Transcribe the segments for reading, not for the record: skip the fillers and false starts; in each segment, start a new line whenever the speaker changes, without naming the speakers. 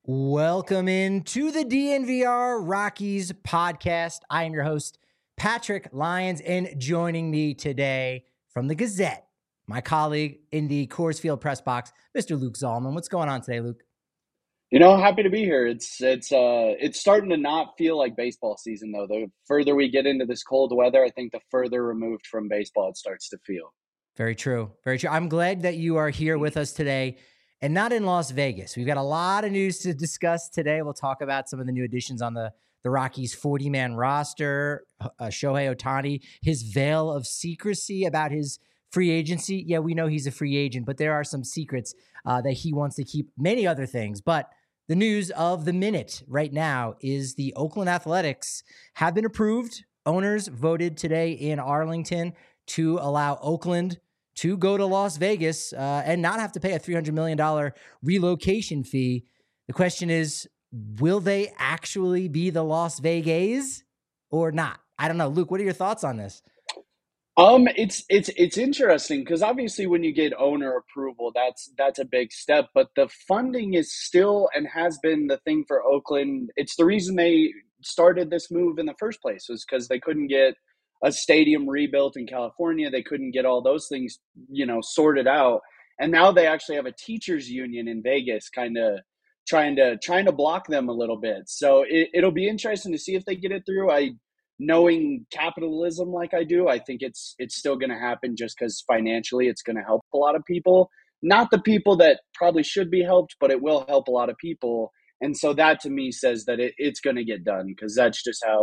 Welcome into the DNVR Rockies podcast. I am your host, Patrick Lyons, and joining me today from the Gazette, my colleague in the Coors Field press box, Mr. Luke Zalman. What's going on today, Luke?
Happy to be here. It's starting to not feel like baseball season though. The further we get into this cold weather, I think the further removed from baseball it starts to feel.
Very true. Very true. I'm glad that you are here with us today and not in Las Vegas. We've got a lot of news to discuss today. We'll talk about some of the new additions on the Rockies 40-man roster, Shohei Ohtani, his veil of secrecy about his free agency. Yeah, we know he's a free agent, but there are some secrets that he wants to keep, many other things. But the news of the minute right now is the Oakland Athletics have been approved. Owners voted today in Arlington to allow Oakland to go to Las Vegas and not have to pay a $300 million relocation fee. The question is, will they actually be the Las Vegas or not? I don't know. Luke, what are your thoughts on this?
It's interesting because obviously when you get owner approval, that's a big step. But the funding is still and has been the thing for Oakland. It's the reason they started this move in the first place was because they couldn't get a stadium rebuilt in California. They couldn't get all those things, sorted out. And now they actually have a teachers union in Vegas, kind of trying to block them a little bit. So it'll be interesting to see if they get it through. Knowing capitalism like I do, I think it's still going to happen just because financially it's going to help a lot of people. Not the people that probably should be helped, but it will help a lot of people. And so that to me says that it's going to get done because that's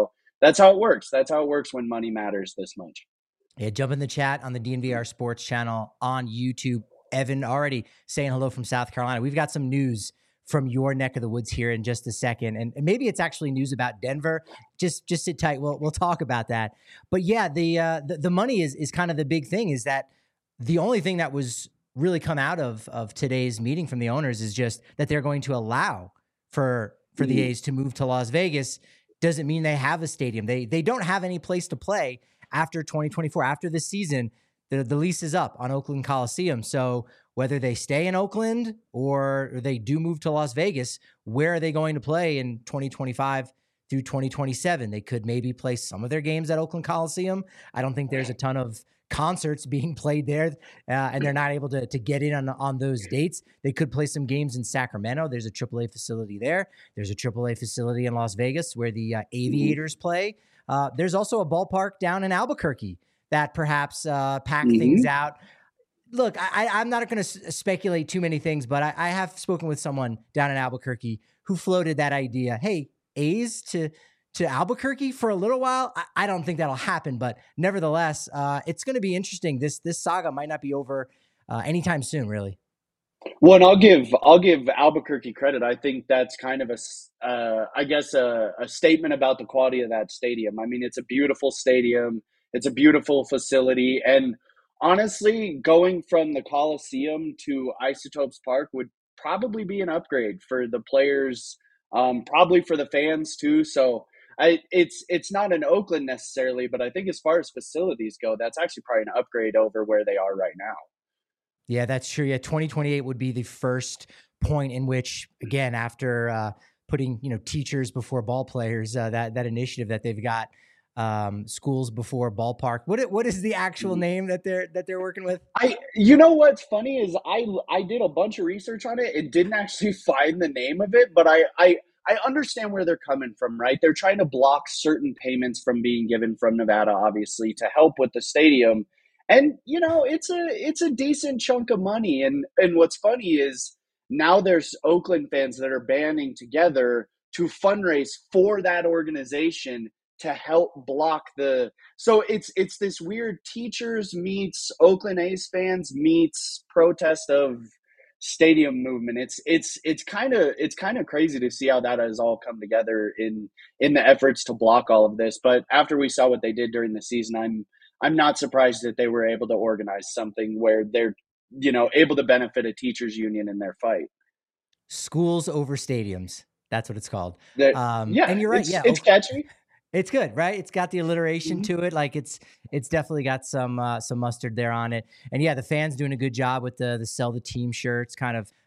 how it works. That's how it works when money matters this much.
Yeah, jump in the chat on the DNVR Sports channel on YouTube. Evan already saying hello from South Carolina. We've got some news from your neck of the woods here in just a second. And maybe it's actually news about Denver. Just sit tight. We'll talk about that. But yeah, the money is kind of the big thing, is that the only thing that was really come out of today's meeting from the owners is just that they're going to allow for the A's to move to Las Vegas. Doesn't mean they have a stadium. They don't have any place to play after 2024. After this season, the lease is up on Oakland Coliseum. So whether they stay in Oakland or they do move to Las Vegas, where are they going to play in 2025 through 2027? They could maybe play some of their games at Oakland Coliseum. I don't think there's a ton of concerts being played there, and they're not able to get in on those dates. They could play some games in Sacramento. There's a AAA facility there. There's a AAA facility in Las Vegas where the Aviators play. There's also a ballpark down in Albuquerque that perhaps pack things out. Look, I'm not going to speculate too many things, but I have spoken with someone down in Albuquerque who floated that idea. Hey, A's to Albuquerque for a little while. I don't think that'll happen, but nevertheless, it's going to be interesting. This saga might not be over anytime soon, really.
Well, and I'll give Albuquerque credit. I think that's kind of a statement about the quality of that stadium. I mean, it's a beautiful stadium. It's a beautiful facility, and honestly, going from the Coliseum to Isotopes Park would probably be an upgrade for the players, probably for the fans too. So it's not in Oakland necessarily, but I think as far as facilities go, that's actually probably an upgrade over where they are right now.
Yeah, that's true. Yeah, 2028 would be the first point in which, again, after putting teachers before ball players, that initiative that they've got, schools before ballpark. What is the actual name that they're working with?
What's funny is I did a bunch of research on it and didn't actually find the name of it, but I understand where they're coming from, right? They're trying to block certain payments from being given from Nevada, obviously, to help with the stadium. And it's a decent chunk of money. And what's funny is now there's Oakland fans that are banding together to fundraise for that organization to help block so it's this weird teachers meets Oakland A's fans meets protest of stadium movement. It's kind of crazy to see how that has all come together in the efforts to block all of this. But after we saw what they did during the season, I'm not surprised that they were able to organize something where they're able to benefit a teachers union in their fight.
Schools over stadiums. That's what it's called.
Yeah,
and you're right.
It's catchy.
It's good, right? It's got the alliteration to it. Like it's definitely got some mustard there on it. And yeah, the fans doing a good job with the sell the team shirts, kind of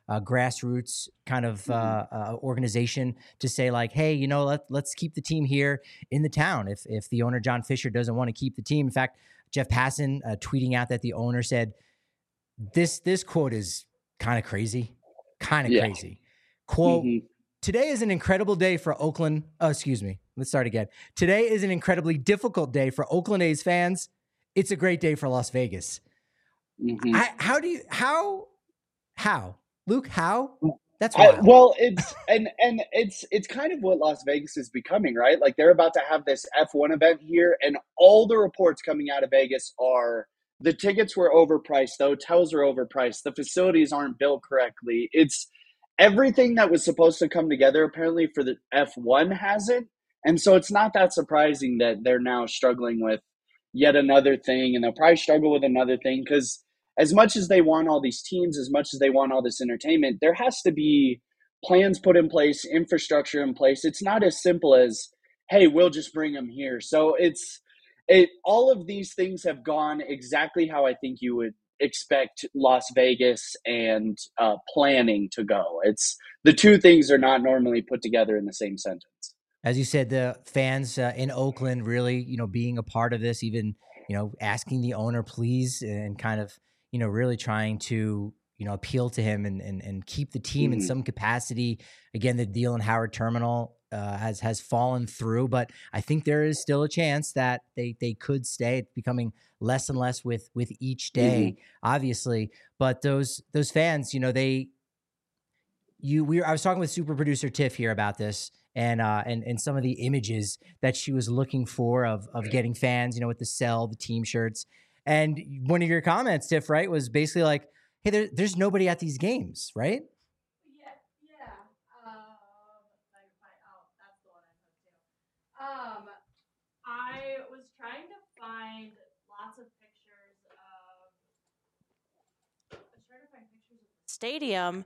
grassroots kind of
Mhm.
organization to say like, hey, let's keep the team here in the town. If the owner John Fisher doesn't want to keep the team, in fact, Jeff Passan tweeting out that the owner said this quote is kind of crazy, kind of
Yeah.
crazy. Quote,
Hmm.
today is an incredible day for Oakland. Oh, excuse me. Let's start again. Today is an incredibly difficult day for Oakland A's fans. It's a great day for Las Vegas.
Hmm.
How, Luke, how? That's wild.
Well, it's kind of what Las Vegas is becoming, right? Like they're about to have this F1 event here, and all the reports coming out of Vegas are the tickets were overpriced, the hotels are overpriced, the facilities aren't built correctly. It's everything that was supposed to come together apparently for the F1 hasn't, and so it's not that surprising that they're now struggling with yet another thing, and they'll probably struggle with another thing because as much as they want all these teams, as much as they want all this entertainment, there has to be plans put in place, infrastructure in place. It's not as simple as, hey, we'll just bring them here. So all of these things have gone exactly how I think you would expect Las Vegas and planning to go. It's the two things are not normally put together in the same sentence.
As you said, the fans in Oakland really, being a part of this, even, asking the owner, please, and kind of, really trying to, appeal to him and keep the team in
Mhm.
some capacity. Again, the deal in Howard Terminal has fallen through, but I think there is still a chance that they could stay. It's becoming less and less with each day,
Mhm.
obviously. But those fans, I was talking with super producer Tiff here about this and some of the images that she was looking for of getting fans, with the sell, the team shirts. And one of your comments, Tiff, right, was basically like, hey, there's nobody at these games, right?
Yeah, yeah. If I can find, oh, that's the one I took too. I was trying to find lots of pictures of. I was trying to find pictures of the stadium,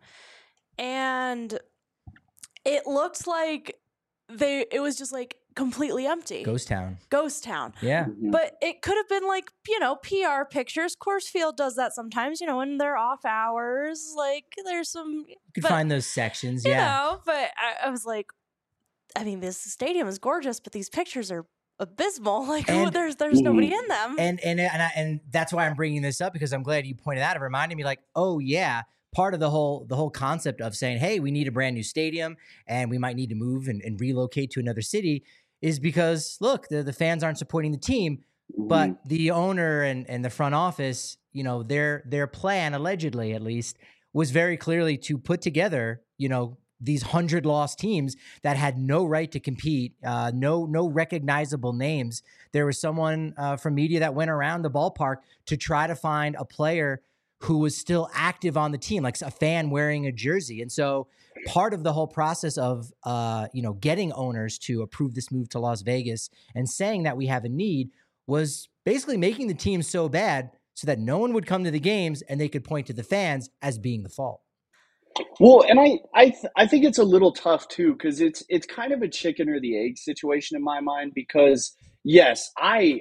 and it looked like it was just like completely empty.
Ghost Town.
Ghost town.
Yeah.
Mhm.
But it could have been like, PR pictures. Coors Field does that sometimes, when they're off hours. Like there's some.
You could
But,
find those sections. Yeah.
but I was like, I mean, this stadium is gorgeous, but these pictures are abysmal. Like,
And-
there's nobody in them.
And that's why I'm bringing this up, because I'm glad you pointed out. It reminded me, like, oh yeah, part of the whole concept of saying, hey, we need a brand new stadium and we might need to move and relocate to another city is because look, the fans aren't supporting the team, but
Mhm.
the owner and the front office, their plan, allegedly at least, was very clearly to put together, these 100 lost teams that had no right to compete, no recognizable names. There was someone from media that went around the ballpark to try to find a player who was still active on the team, like a fan wearing a jersey. And so part of the whole process of getting owners to approve this move to Las Vegas and saying that we have a need was basically making the team so bad so that no one would come to the games and they could point to the fans as being the fault.
Well, and I think it's a little tough too because it's kind of a chicken or the egg situation in my mind because yes,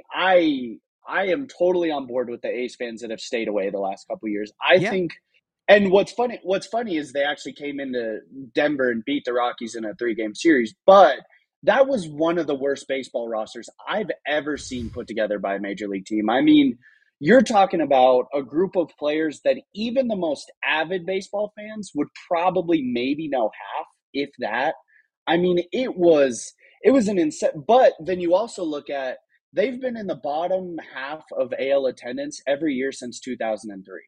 I am totally on board with the A's fans that have stayed away the last couple of years. I
Yeah.
think, and what's funny is they actually came into Denver and beat the Rockies in a 3-game series, but that was one of the worst baseball rosters I've ever seen put together by a major league team. I mean, you're talking about a group of players that even the most avid baseball fans would probably maybe know half, if that. I mean, it was an insane. But then you also look at they've been in the bottom half of AL attendance every year since 2003.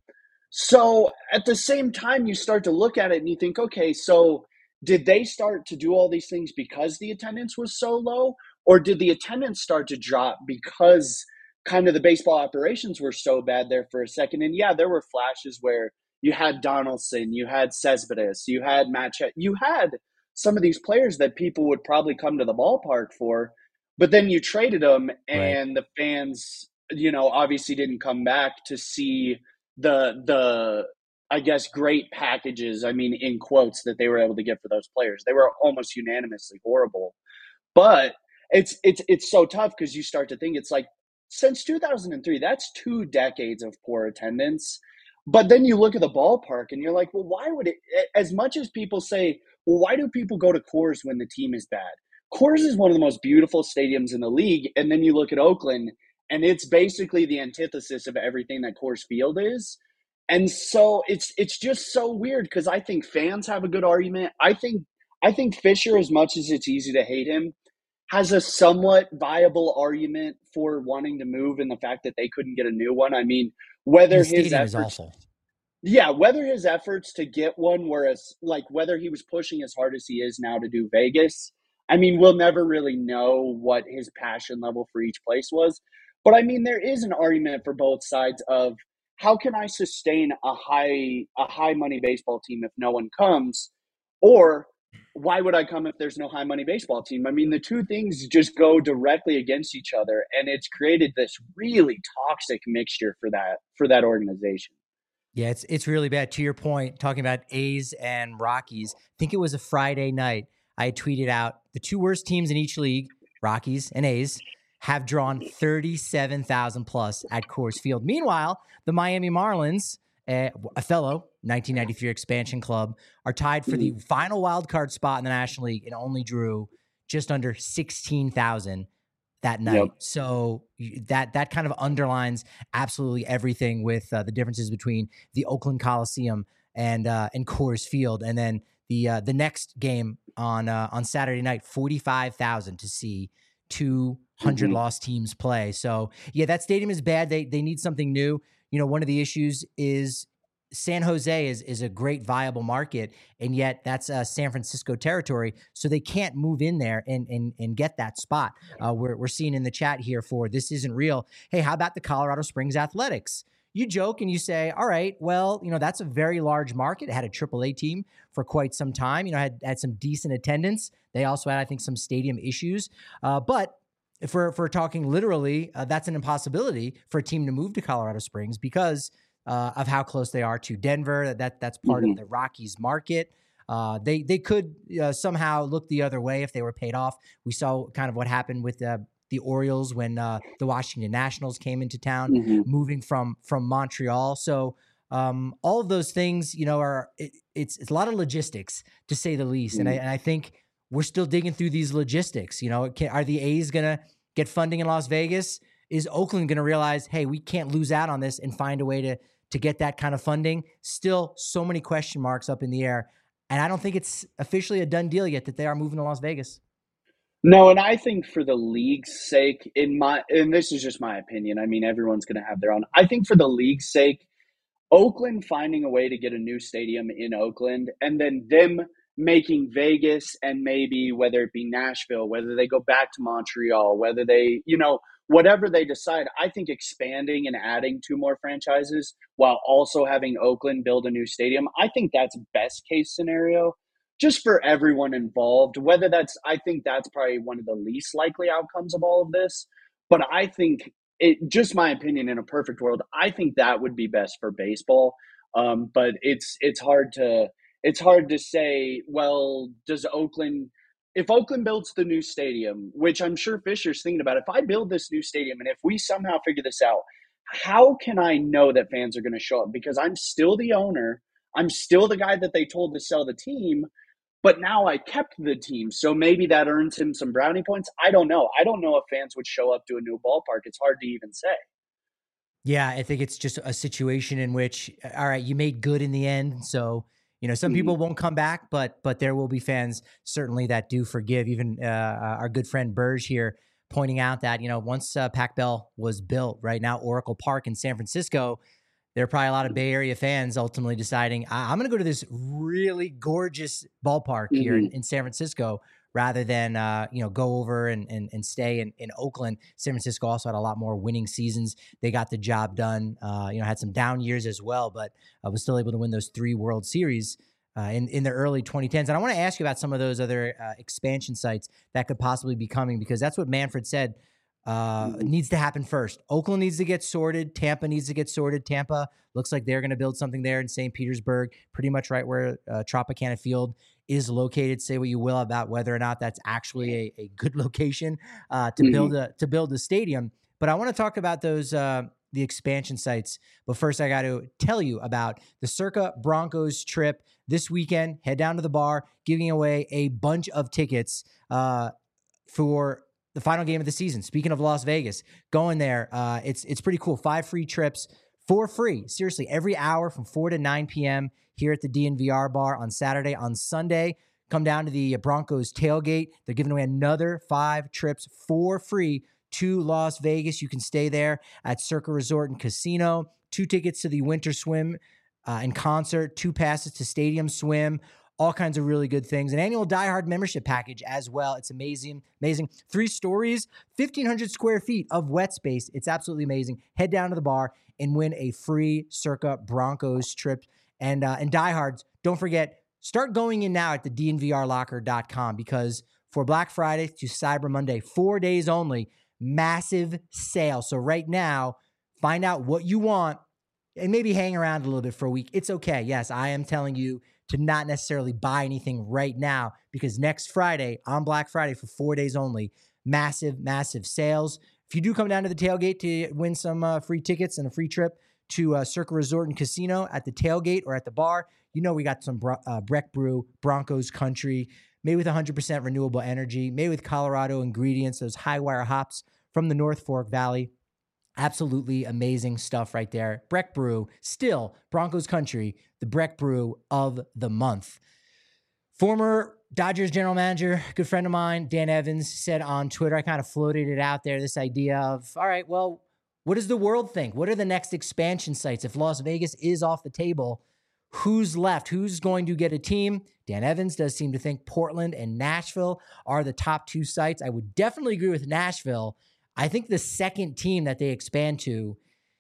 So at the same time, you start to look at it and you think, okay, so did they start to do all these things because the attendance was so low? Or did the attendance start to drop because kind of the baseball operations were so bad there for a second? And yeah, there were flashes where you had Donaldson, you had Cespedes, you had you had some of these players that people would probably come to the ballpark for, but then you traded them
Right.
and the fans, obviously didn't come back to see the I guess great packages, I mean in quotes, that they were able to get for those players. They were almost unanimously horrible. But it's so tough because you start to think it's like since 2003, that's 2 decades of poor attendance. But then you look at the ballpark and you're like, well, why would it, as much as people say, well, why do people go to Coors when the team is bad? Coors is one of the most beautiful stadiums in the league. And then you look at Oakland and it's basically the antithesis of everything that Coors Field is. And so it's just so weird because I think fans have a good argument. I think Fisher, as much as it's easy to hate him, has a somewhat viable argument for wanting to move and the fact that they couldn't get a new one. I mean,
And
whether
the
his
stadium is
efforts
awful.
yeah, whether his efforts to get one, whereas like whether he was pushing as hard as he is now to do Vegas, I mean, we'll never really know what his passion level for each place was. But I mean, there is an argument for both sides of how can I sustain a high money baseball team if no one comes, or why would I come if there's no high money baseball team? I mean, the two things just go directly against each other, and it's created this really toxic mixture for that organization.
Yeah, it's really bad. To your point, talking about A's and Rockies, I think it was a Friday night. I tweeted out the two worst teams in each league, Rockies and A's, have drawn 37,000 plus at Coors Field. Meanwhile, the Miami Marlins, a fellow 1993 expansion club, are tied for the final wild card spot in the National League and only drew just under 16,000 that night.
Yep.
So that kind of underlines absolutely everything with the differences between the Oakland Coliseum and Coors Field, and then the next game on Saturday night, 45,000 to see 200 lost teams play. So yeah, that stadium is bad. They need something new. You know, one of the issues is San Jose is a great viable market, and yet that's San Francisco territory, so they can't move in there and get that spot. We're seeing in the chat here for This Isn't Real. Hey, how about the Colorado Springs Athletics? You joke and you say, all right, well, you know, that's a very large market. It had a AAA team for quite some time. You know, had some decent attendance. They also had, I think, some stadium issues. But if we're talking literally, that's an impossibility for a team to move to Colorado Springs because of how close they are to Denver. That's part of the Rockies market. They could somehow look the other way if they were paid off. We saw kind of what happened with the Orioles when the Washington Nationals came into town, moving from Montreal. So all of those things, you know, it's a lot of logistics to say the least. And I think we're still digging through these logistics. You know, are the A's gonna get funding in Las Vegas? Is Oakland going to realize, hey, we can't lose out on this and find a way to get that kind of funding? Still so many question marks up in the air. And I don't think it's officially a done deal yet that they are moving to Las Vegas.
No, and I think for the league's sake, and this is just my opinion. I mean, everyone's going to have their own. I think for the league's sake, Oakland finding a way to get a new stadium in Oakland, and then them making Vegas and maybe whether it be Nashville, whether they go back to Montreal, whether they, whatever they decide, I think expanding and adding two more franchises while also having Oakland build a new stadium, I think that's best case scenario just for everyone involved. I think that's probably one of the least likely outcomes of all of this. But I think just my opinion, in a perfect world, I think that would be best for baseball. But it's hard to say, well, if Oakland builds the new stadium, which I'm sure Fisher's thinking about, if I build this new stadium and if we somehow figure this out, how can I know that fans are going to show up? Because I'm still the owner. I'm still the guy that they told to sell the team, but now I kept the team. So maybe that earns him some brownie points. I don't know. I don't know if fans would show up to a new ballpark. It's hard to even say.
Yeah, I think it's just a situation in which, all right, you made good in the end. So, you know, some people won't come back, but there will be fans certainly that do forgive. Even our good friend Burge here pointing out that, you know, once Pac Bell was built, right now, Oracle Park in San Francisco, there are probably a lot of Bay Area fans ultimately deciding, I'm going to go to this really gorgeous ballpark here in San Francisco rather than, go over and stay in Oakland. San Francisco also had a lot more winning seasons. They got the job done, had some down years as well, but was still able to win those 3 World Series in the early 2010s. And I want to ask you about some of those other expansion sites that could possibly be coming, because that's what Manfred said needs to happen first. Oakland needs to get sorted. Tampa needs to get sorted. Tampa looks like they're going to build something there in St. Petersburg, pretty much right where Tropicana Field is located. Say what you will about whether or not that's actually a good location to build a stadium. But I want to talk about those the expansion sites. But first, I got to tell you about the Circa Broncos trip this weekend. Head down to the bar, giving away a bunch of tickets for the final game of the season. Speaking of Las Vegas, going there, it's pretty cool. 5 free trips for free. Seriously, every hour from 4 to 9 p.m. here at the DNVR bar on Saturday. On Sunday, come down to the Broncos tailgate. They're giving away another 5 trips for free to Las Vegas. You can stay there at Circa Resort and Casino. 2 tickets to the Winter Swim in concert, 2 passes to Stadium Swim, all kinds of really good things. An annual Die Hard membership package as well. It's amazing, amazing. 3 stories, 1,500 square feet of wet space. It's absolutely amazing. Head down to the bar and win a free Circa Broncos trip. And diehards, don't forget, start going in now at the DNVRlocker.com because for Black Friday to Cyber Monday, 4 days only, massive sale. So right now, find out what you want and maybe hang around a little bit for a week. It's okay. Yes, I am telling you to not necessarily buy anything right now because next Friday, on Black Friday for 4 days only, massive, massive sales. If you do come down to the tailgate to win some free tickets and a free trip to Circa Resort and Casino at the tailgate or at the bar, you know we got some Breck Brew, Broncos Country, made with 100% renewable energy, made with Colorado ingredients, those high wire hops from the North Fork Valley. Absolutely amazing stuff right there. Breck Brew, still Broncos Country, the Breck Brew of the month. Former Dodgers general manager, good friend of mine, Dan Evans, said on Twitter, I kind of floated it out there, this idea of, all right, well, what does the world think? What are the next expansion sites? If Las Vegas is off the table, who's left? Who's going to get a team? Dan Evans does seem to think Portland and Nashville are the top 2 sites. I would definitely agree with Nashville. I think the second team that they expand to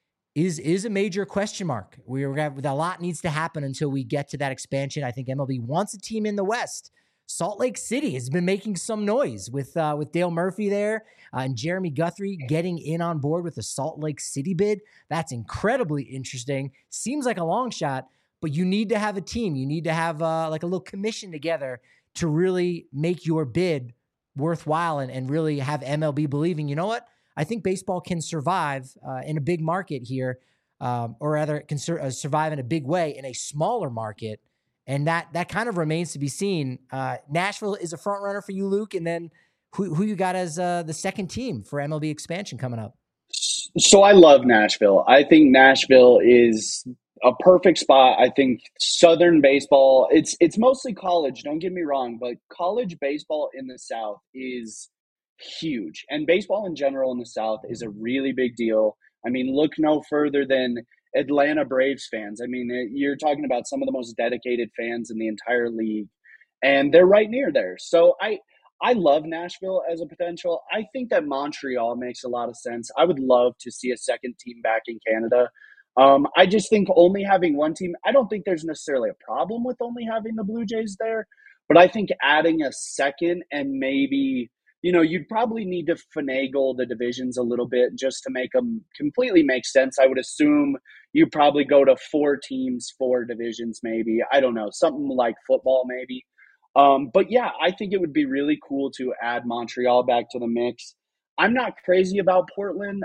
is a major question mark. A lot needs to happen until we get to that expansion. I think MLB wants a team in the West. Salt Lake City has been making some noise with Dale Murphy there and Jeremy Guthrie getting in on board with the Salt Lake City bid. That's incredibly interesting. Seems like a long shot, but you need to have a team. You need to have like a little commission together to really make your bid worthwhile and really have MLB believing, you know what? I think baseball can survive in a big market here, or rather can survive in a big way in a smaller market. And that kind of remains to be seen. Nashville is a front runner for you, Luke. And then who you got as the second team for MLB expansion coming up?
So I love Nashville. I think Nashville is a perfect spot. I think Southern baseball, it's mostly college, don't get me wrong, but college baseball in the South is huge. And baseball in general in the South is a really big deal. I mean, look no further than Atlanta Braves fans. I mean, you're talking about some of the most dedicated fans in the entire league, and they're right near there. So I love Nashville as a potential. I think that Montreal makes a lot of sense. I would love to see a second team back in Canada. I just think only having one team, I don't think there's necessarily a problem with only having the Blue Jays there, but I think adding a second and maybe, you'd probably need to finagle the divisions a little bit just to make them completely make sense. I would assume you probably go to 4 teams, 4 divisions, maybe. I don't know, something like football maybe. But yeah, I think it would be really cool to add Montreal back to the mix. I'm not crazy about Portland.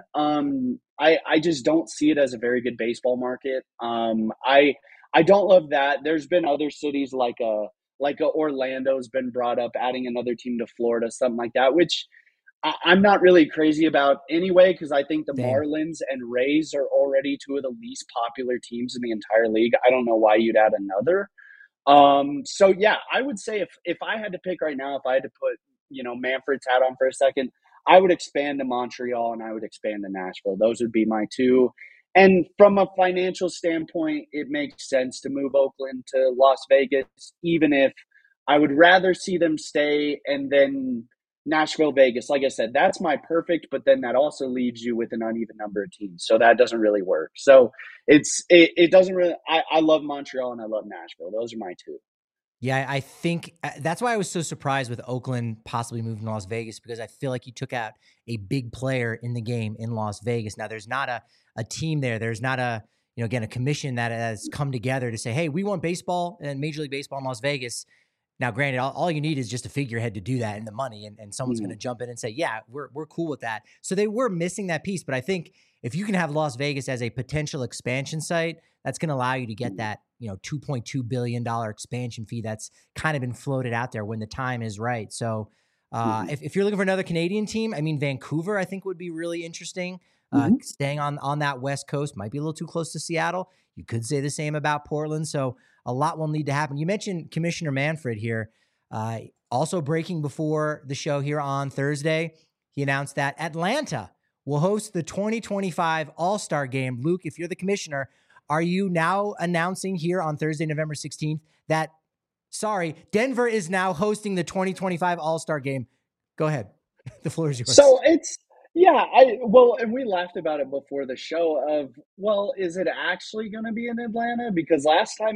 I just don't see it as a very good baseball market. I don't love that. There's been other cities like Orlando's been brought up, adding another team to Florida, something like that, which I'm not really crazy about anyway, because I think the Marlins and Rays are already 2 of the least popular teams in the entire league. I don't know why you'd add another. So yeah, I would say if I had to pick right now, if I had to put, Manfred's hat on for a second, I would expand to Montreal and I would expand to Nashville. Those would be my 2. And from a financial standpoint, it makes sense to move Oakland to Las Vegas, even if I would rather see them stay and then Nashville, Vegas. Like I said, that's my perfect, but then that also leaves you with an uneven number of teams. So that doesn't really work. So it doesn't really, I love Montreal and I love Nashville. Those are my 2.
Yeah, I think that's why I was so surprised with Oakland possibly moving to Las Vegas, because I feel like you took out a big player in the game in Las Vegas. Now, there's not a team there. There's not a commission that has come together to say, hey, we want baseball and Major League Baseball in Las Vegas. Now, granted, all you need is just a figurehead to do that and the money, and someone's going to jump in and say, yeah, we're cool with that. So they were missing that piece. But I think if you can have Las Vegas as a potential expansion site, that's going to allow you to get that, $2.2 billion expansion fee that's kind of been floated out there when the time is right. So if you're looking for another Canadian team, I mean, Vancouver, I think would be really interesting. Staying on that West Coast might be a little too close to Seattle. You could say the same about Portland. So a lot will need to happen. You mentioned Commissioner Manfred here. Also breaking before the show here on Thursday, he announced that Atlanta will host the 2025 All-Star Game. Luke, if you're the commissioner, are you now announcing here on Thursday, November 16th, that, Denver is now hosting the 2025 All-Star Game? Go ahead. The floor is yours.
So and we laughed about it before the show of, well, is it actually going to be in Atlanta? Because last time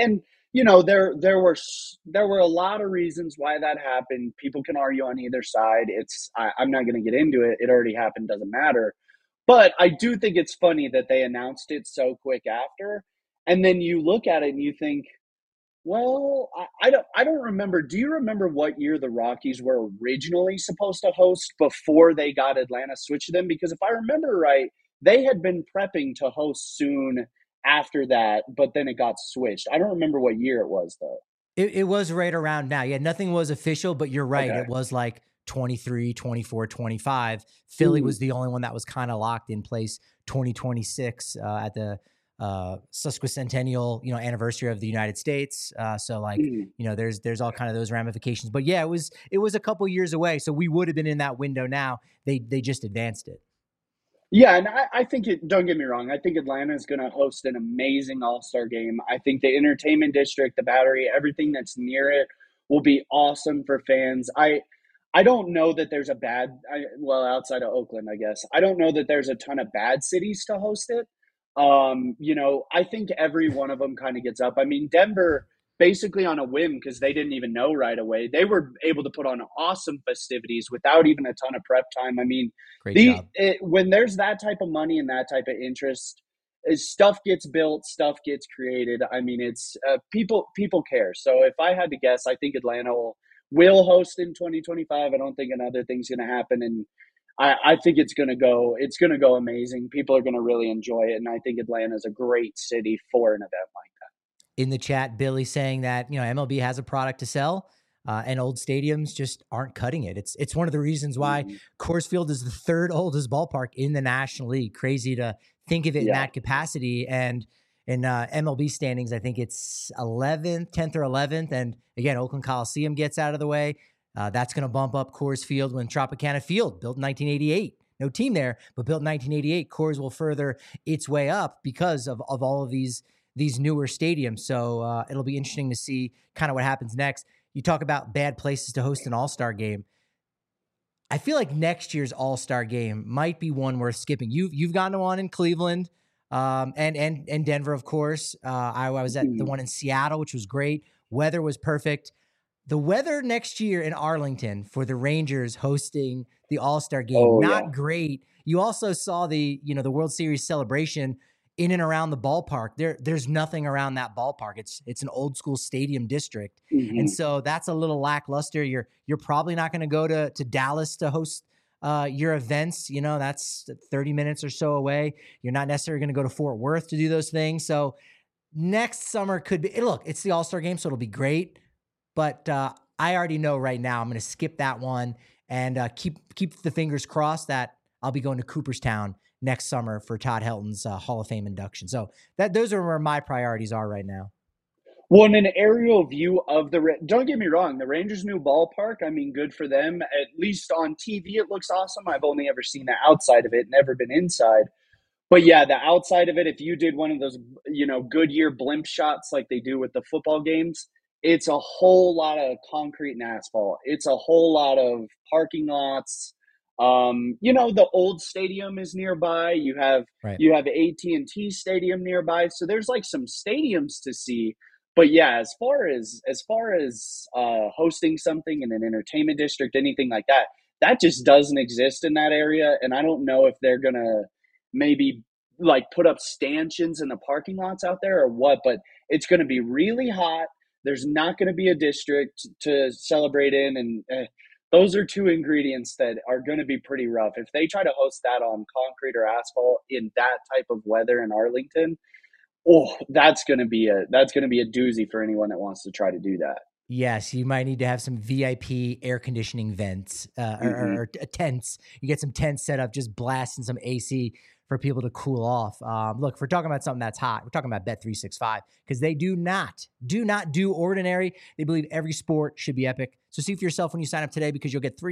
there were a lot of reasons why that happened. People can argue on either side. I'm not going to get into it. It already happened. Doesn't matter. But I do think it's funny that they announced it so quick after. And then you look at it and you think, well, I don't remember. Do you remember what year the Rockies were originally supposed to host before they got Atlanta switched to them? Because if I remember right, they had been prepping to host soon after that, but then it got switched. I don't remember what year it was, though.
It was right around now. Yeah, nothing was official, but you're right.
Okay.
It was like 23, 24, 25. Philly was the only one that was kind of locked in place 2026 at the sesquicentennial, anniversary of the United States. So there's all kind of those ramifications, but yeah, it was a couple years away. So we would have been in that window now. They just advanced it.
Yeah, and I think don't get me wrong, I think Atlanta is going to host an amazing All-Star game. I think the entertainment district, the Battery, everything that's near it will be awesome for fans. I don't know that there's outside of Oakland, I guess. I don't know that there's a ton of bad cities to host it. I think every one of them kind of gets up. I mean, Denver, basically on a whim, because they didn't even know right away, they were able to put on awesome festivities without even a ton of prep time. I mean,
Great job.
When there's that type of money and that type of interest, stuff gets built, stuff gets created. I mean, it's people care. So if I had to guess, I think Atlanta will host in 2025. I don't think another thing's going to happen, and I think it's going to go amazing. People are going to really enjoy it, and I think Atlanta is a great city for an event like that.
In the chat, Billy saying that MLB has a product to sell, and old stadiums just aren't cutting it. It's one of the reasons why Coors Field is the third oldest ballpark in the National League. Crazy to think of it in that capacity. And in MLB standings, I think it's 10th or 11th. And again, Oakland Coliseum gets out of the way. That's going to bump up Coors Field when Tropicana Field, built in 1988. No team there, but built in 1988. Coors will further its way up because of all of these newer stadiums. So it'll be interesting to see kind of what happens next. You talk about bad places to host an All-Star game. I feel like next year's All-Star game might be one worth skipping. You've gone to one in Cleveland, and Denver, of course. I was at the one in Seattle, which was great. Weather was perfect. The weather next year in Arlington for the Rangers hosting the All-Star game, great. You also saw the World Series celebration in and around the ballpark. There's nothing around that ballpark. It's an old school stadium district. And so that's a little lackluster. You're probably not going to go to Dallas to host your events. That's 30 minutes or so away. You're not necessarily going to go to Fort Worth to do those things. So next summer could be, look, it's the All-Star game, so it'll be great. But I already know right now I'm going to skip that one and keep the fingers crossed that I'll be going to Cooperstown next summer for Todd Helton's Hall of Fame induction. So those are where my priorities are right now.
Well, in an aerial view of don't get me wrong, the Rangers' new ballpark, I mean, good for them. At least on TV, it looks awesome. I've only ever seen the outside of it, never been inside. But yeah, the outside of it, if you did one of those, Goodyear blimp shots like they do with the football games, it's a whole lot of concrete and asphalt. It's a whole lot of parking lots. The old stadium is nearby. You have AT&T Stadium nearby. So there's like some stadiums to see. But yeah, as far as hosting something in an entertainment district, anything like that, that just doesn't exist in that area. And I don't know if they're gonna maybe like put up stanchions in the parking lots out there or what, but it's gonna be really hot. There's not going to be a district to celebrate in, and those are two ingredients that are going to be pretty rough. If they try to host that on concrete or asphalt in that type of weather in Arlington, oh, that's going to be a doozy for anyone that wants to try to do that.
Yes, you might need to have some VIP air conditioning vents
Mm-hmm.
or tents. You get some tents set up, just blasting some AC for people to cool off. Look, if we're talking about something that's hot, we're talking about Bet365 because they do not do ordinary. They believe every sport should be epic. So see for yourself when you sign up today because you'll get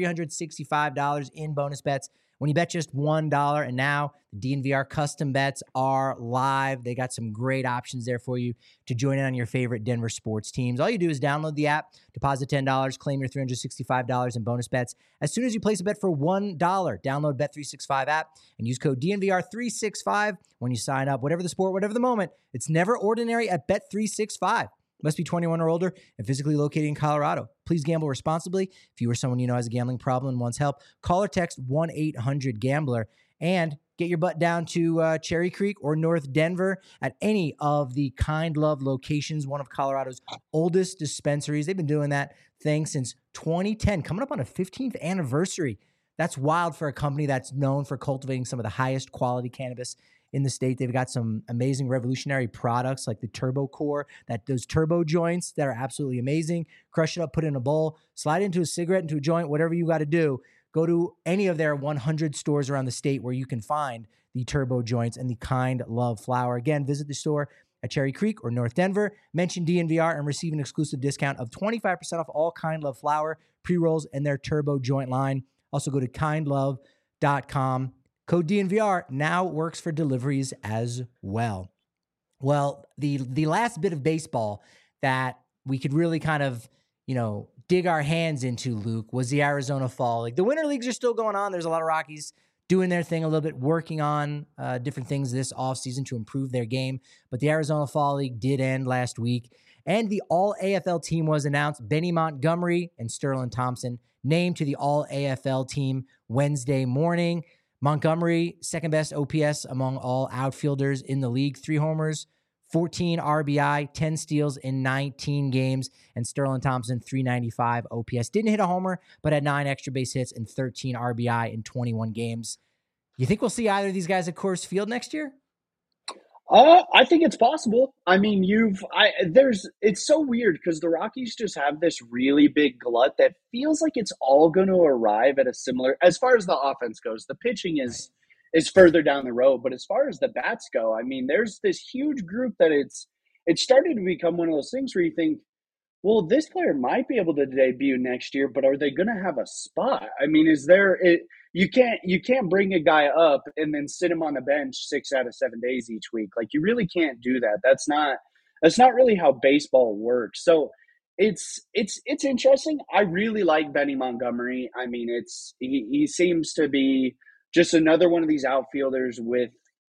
$365 in bonus bets when you bet just $1. And now the DNVR custom bets are live. They got some great options there for you to join in on your favorite Denver sports teams. All you do is download the app, deposit $10, claim your $365 in bonus bets. As soon as you place a bet for $1, download Bet365 app and use code DNVR365 when you sign up. Whatever the sport, whatever the moment, it's never ordinary at Bet365. Must be 21 or older and physically located in Colorado. Please gamble responsibly. If you or someone you know has a gambling problem and wants help, call or text 1-800-GAMBLER and get your butt down to Cherry Creek or North Denver at any of the Kind Love locations, one of Colorado's oldest dispensaries. They've been doing that thing since 2010, coming up on a 15th anniversary. That's wild for a company that's known for cultivating some of the highest quality cannabis in the state. They've got some amazing revolutionary products like the Turbo Core, those turbo joints that are absolutely amazing. Crush it up, put it in a bowl, slide into a cigarette, into a joint, whatever you got to do. Go to any of their 100 stores around the state where you can find the turbo joints and the Kind Love flower. Again, visit the store at Cherry Creek or North Denver. Mention DNVR and receive an exclusive discount of 25% off all Kind Love flower, pre-rolls, and their turbo joint line. Also go to kindlove.com. Code DNVR now works for deliveries as well. Well, the last bit of baseball that we could really kind of, dig our hands into, Luke, was the Arizona Fall League. The Winter Leagues are still going on. There's a lot of Rockies doing their thing a little bit, working on different things this offseason to improve their game. But the Arizona Fall League did end last week, and the All-AFL team was announced. Benny Montgomery and Sterling Thompson named to the All-AFL team Wednesday morning. Montgomery, second best OPS among all outfielders in the league, 3 homers, 14 RBI, 10 steals in 19 games, and Sterling Thompson, 395 OPS. Didn't hit a homer, but had 9 extra base hits and 13 RBI in 21 games. You think we'll see either of these guys at Coors Field next year?
I think it's possible. I mean, it's so weird because the Rockies just have this really big glut that feels like it's all going to arrive at a similar, as far as the offense goes. The pitching
Right.
is further down the road, but as far as the bats go, I mean, there's this huge group that it's starting to become one of those things where you think, well, this player might be able to debut next year, but are they going to have a spot? I mean, you can't bring a guy up and then sit him on the bench 6 out of 7 days each week. Like you really can't do that. That's not really how baseball works. So it's interesting. I really like Benny Montgomery. I mean, he seems to be just another one of these outfielders with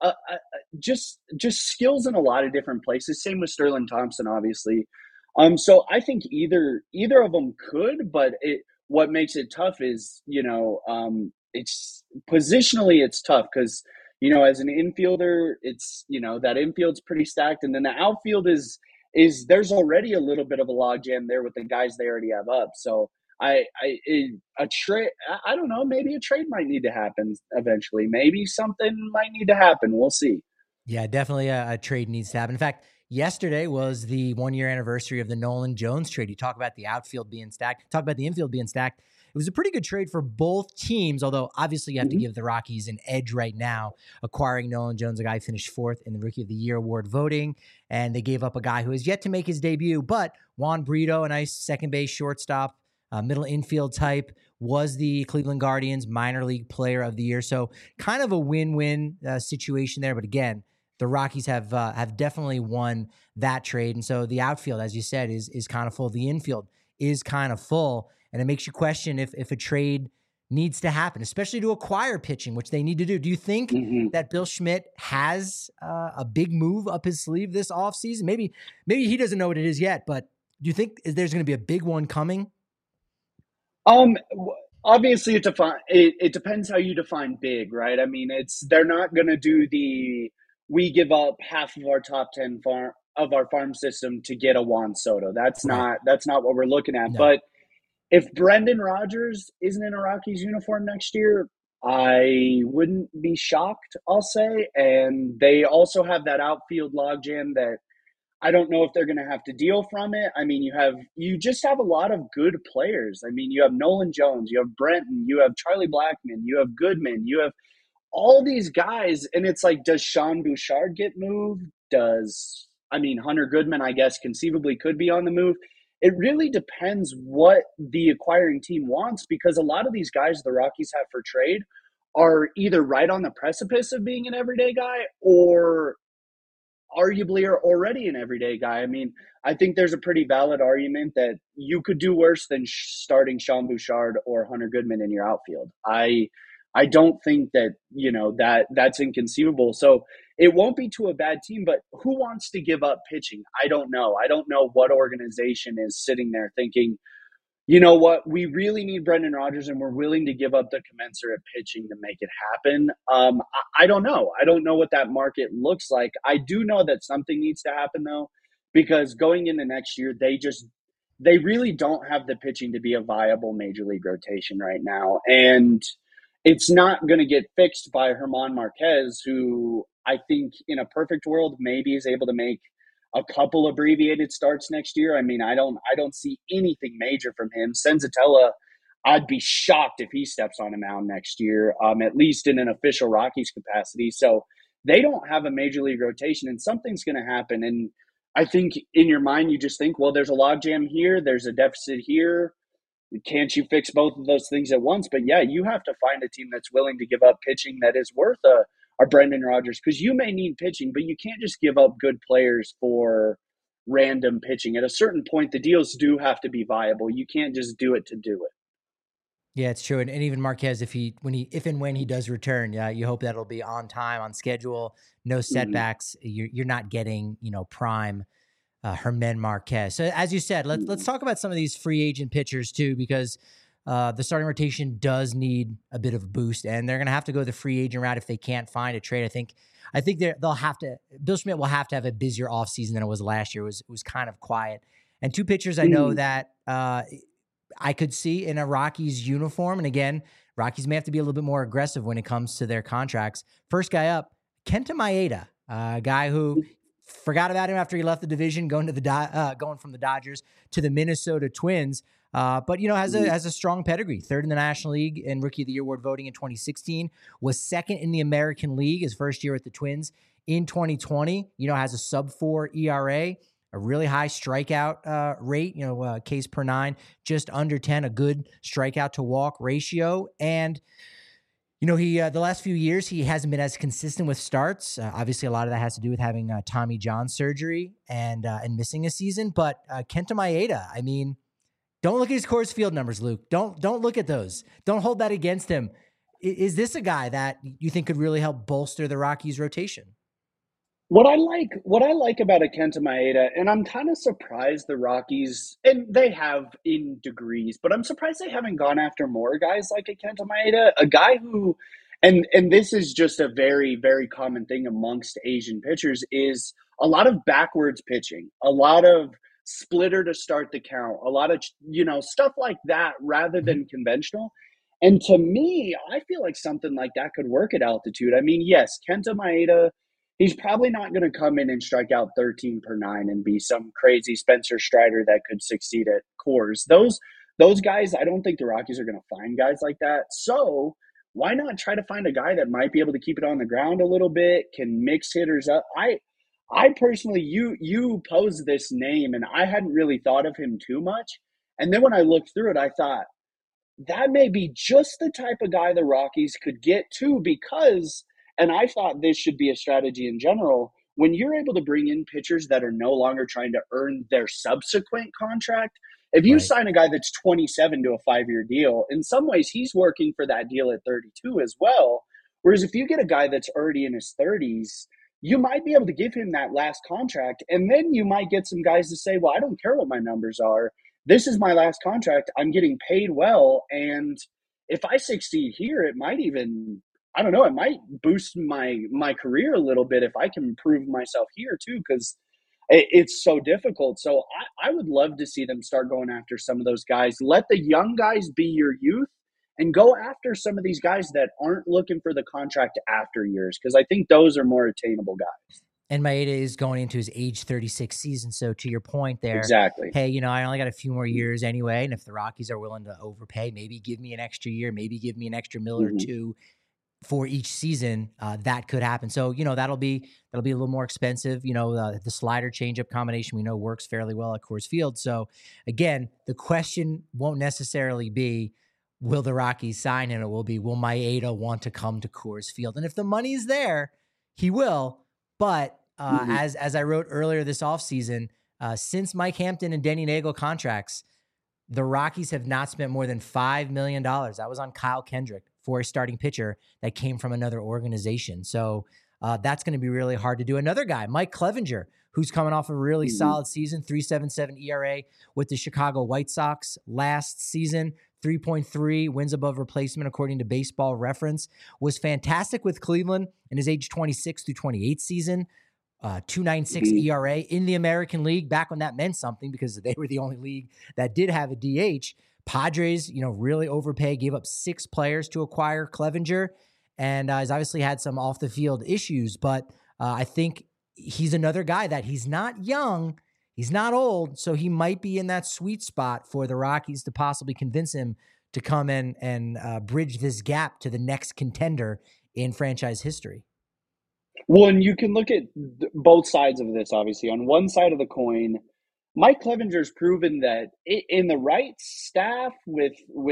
just skills in a lot of different places. Same with Sterling Thompson, obviously. So I think either of them could, but what makes it tough is, it's positionally it's tough because, as an infielder, it's, that infield's pretty stacked, and then the outfield is there's already a little bit of a logjam there with the guys they already have up. So a trade, I don't know, maybe a trade might need to happen eventually. Maybe something might need to happen. We'll see.
Yeah, definitely a trade needs to happen. In fact, yesterday was the 1-year anniversary of the Nolan Jones trade. You talk about the outfield being stacked, talk about the infield being stacked. It was a pretty good trade for both teams, although obviously you have to
Mhm.
give the Rockies an edge right now, acquiring Nolan Jones, a guy who finished 4th in the Rookie of the Year award voting, and they gave up a guy who has yet to make his debut, but Juan Brito, a nice second base shortstop, middle infield type, was the Cleveland Guardians minor league player of the year. So kind of a win-win situation there, but again, the Rockies have definitely won that trade, and so the outfield, as you said, is kind of full. The infield is kind of full, and it makes you question if a trade needs to happen, especially to acquire pitching, which they need to do. Do you think
Mhm.
that Bill Schmidt has a big move up his sleeve this offseason? Maybe he doesn't know what it is yet, but do you think there's going to be a big one coming?
Obviously, it depends how you define big, right? I mean, they're not going to do we give up half of our top 10 of our farm system to get a Juan Soto. That's
Right.
not what we're looking at.
No.
But if Brendan Rodgers isn't in a Rockies uniform next year, I wouldn't be shocked, I'll say. And they also have that outfield logjam that I don't know if they're going to have to deal from it. I mean, you just have a lot of good players. I mean, you have Nolan Jones, you have Brenton, you have Charlie Blackmon, you have Goodman, you have all these guys, and it's like, does Sean Bouchard get moved? Hunter Goodman, I guess, conceivably could be on the move. It really depends what the acquiring team wants, because a lot of these guys the Rockies have for trade are either right on the precipice of being an everyday guy or arguably are already an everyday guy. I mean, I think there's a pretty valid argument that you could do worse than starting Sean Bouchard or Hunter Goodman in your outfield. I don't think that, that's inconceivable. So it won't be to a bad team, but who wants to give up pitching? I don't know. I don't know what organization is sitting there thinking, you know what, we really need Brendan Rodgers and we're willing to give up the commensurate pitching to make it happen. I don't know. I don't know what that market looks like. I do know that something needs to happen, though, because going into next year, they really don't have the pitching to be a viable major league rotation right now. And it's not going to get fixed by German Marquez, who I think in a perfect world maybe is able to make a couple abbreviated starts next year. I mean, I don't see anything major from him. Senzatella, I'd be shocked if he steps on a mound next year, at least in an official Rockies capacity. So they don't have a major league rotation, and something's going to happen. And I think in your mind, you just think, well, there's a logjam here, there's a deficit here. Can't you fix both of those things at once? But yeah, you have to find a team that's willing to give up pitching that is worth a Brendan Rodgers, because you may need pitching, but you can't just give up good players for random pitching. At a certain point, the deals do have to be viable. You can't just do it to do it.
Yeah, it's true. And even Marquez, if and when he does return, yeah, you hope that'll be on time, on schedule, no setbacks. You're not getting, prime German Marquez. So as you said, let's talk about some of these free agent pitchers too, because the starting rotation does need a bit of a boost, and they're going to have to go the free agent route if they can't find a trade. I think they'll have to. Bill Schmidt will have to have a busier offseason than it was last year. It was kind of quiet. And two pitchers I know that I could see in a Rockies uniform, and again, Rockies may have to be a little bit more aggressive when it comes to their contracts. First guy up, Kenta Maeda, a guy who forgot about him after he left the division, going from the Dodgers to the Minnesota Twins. But has a strong pedigree. Third in the National League in Rookie of the Year award voting in 2016. Was second in the American League his first year at the Twins in 2020. Has a sub-4 ERA, a really high strikeout rate. Ks per 9, just under 10. A good strikeout to walk ratio. And he the last few years, he hasn't been as consistent with starts. Obviously, a lot of that has to do with having Tommy John surgery and missing a season. But Kenta Maeda, I mean, don't look at his Coors Field numbers, Luke. Don't look at those. Don't hold that against him. Is this a guy that you think could really help bolster the Rockies' rotation?
What I like about a Kenta Maeda, and I'm kind of surprised the Rockies, and they have in degrees, but I'm surprised they haven't gone after more guys like a Kenta Maeda, a guy who, and this is just a very, very common thing amongst Asian pitchers, is a lot of backwards pitching, a lot of splitter to start the count, a lot of, stuff like that rather than conventional. And to me, I feel like something like that could work at altitude. I mean, yes, Kenta Maeda, he's probably not going to come in and strike out 13 per 9 and be some crazy Spencer Strider that could succeed at Coors. Those guys, I don't think the Rockies are going to find guys like that. So why not try to find a guy that might be able to keep it on the ground a little bit, can mix hitters up? I personally, you posed this name, and I hadn't really thought of him too much. And then when I looked through it, I thought, that may be just the type of guy the Rockies could get to, because, and I thought this should be a strategy in general, when you're able to bring in pitchers that are no longer trying to earn their subsequent contract, if you sign a guy that's 27 to a 5-year deal, in some ways he's working for that deal at 32 as well. Whereas if you get a guy that's already in his 30s, you might be able to give him that last contract, and then you might get some guys to say, well, I don't care what my numbers are. This is my last contract. I'm getting paid well. And if I succeed here, it might even, I don't know, it might boost my career a little bit if I can improve myself here too. Because it's so difficult. So I would love to see them start going after some of those guys. Let the young guys be your youth and go after some of these guys that aren't looking for the contract after years, because I think those are more attainable guys.
And Maeda is going into his age 36 season. So to your point there,
Exactly.
hey, you know, I only got a few more years anyway. And if the Rockies are willing to overpay, maybe give me an extra year, maybe give me an extra mil or two for each season, that could happen. So, you know, that'll be a little more expensive. You know, the slider changeup combination we know works fairly well at Coors Field. So again, the question won't necessarily be, will the Rockies sign him? It will be, will Maeda want to come to Coors Field? And if the money's there, he will. But as I wrote earlier this offseason, since Mike Hampton and Denny Nagel contracts, the Rockies have not spent more than $5 million. That was on Kyle Kendrick for a starting pitcher that came from another organization. So that's going to be really hard to do. Another guy, Mike Clevinger, who's coming off a really solid season, 3.77 ERA with the Chicago White Sox last season, 3.3 wins above replacement according to Baseball Reference, was fantastic with Cleveland in his age 26 through 28 season. 2.96 ERA in the American League back when that meant something because they were the only league that did have a DH. Padres, you know, really overpaid, gave up 6 players to acquire Clevinger, and has obviously had some off the field issues. But I think he's another guy that he's not young, he's not old, so he might be in that sweet spot for the Rockies to possibly convince him to come in and bridge this gap to the next contender in franchise history.
Well, and you can look at both sides of this, obviously. On one side of the coin, Mike Clevenger's proven that in the right staff with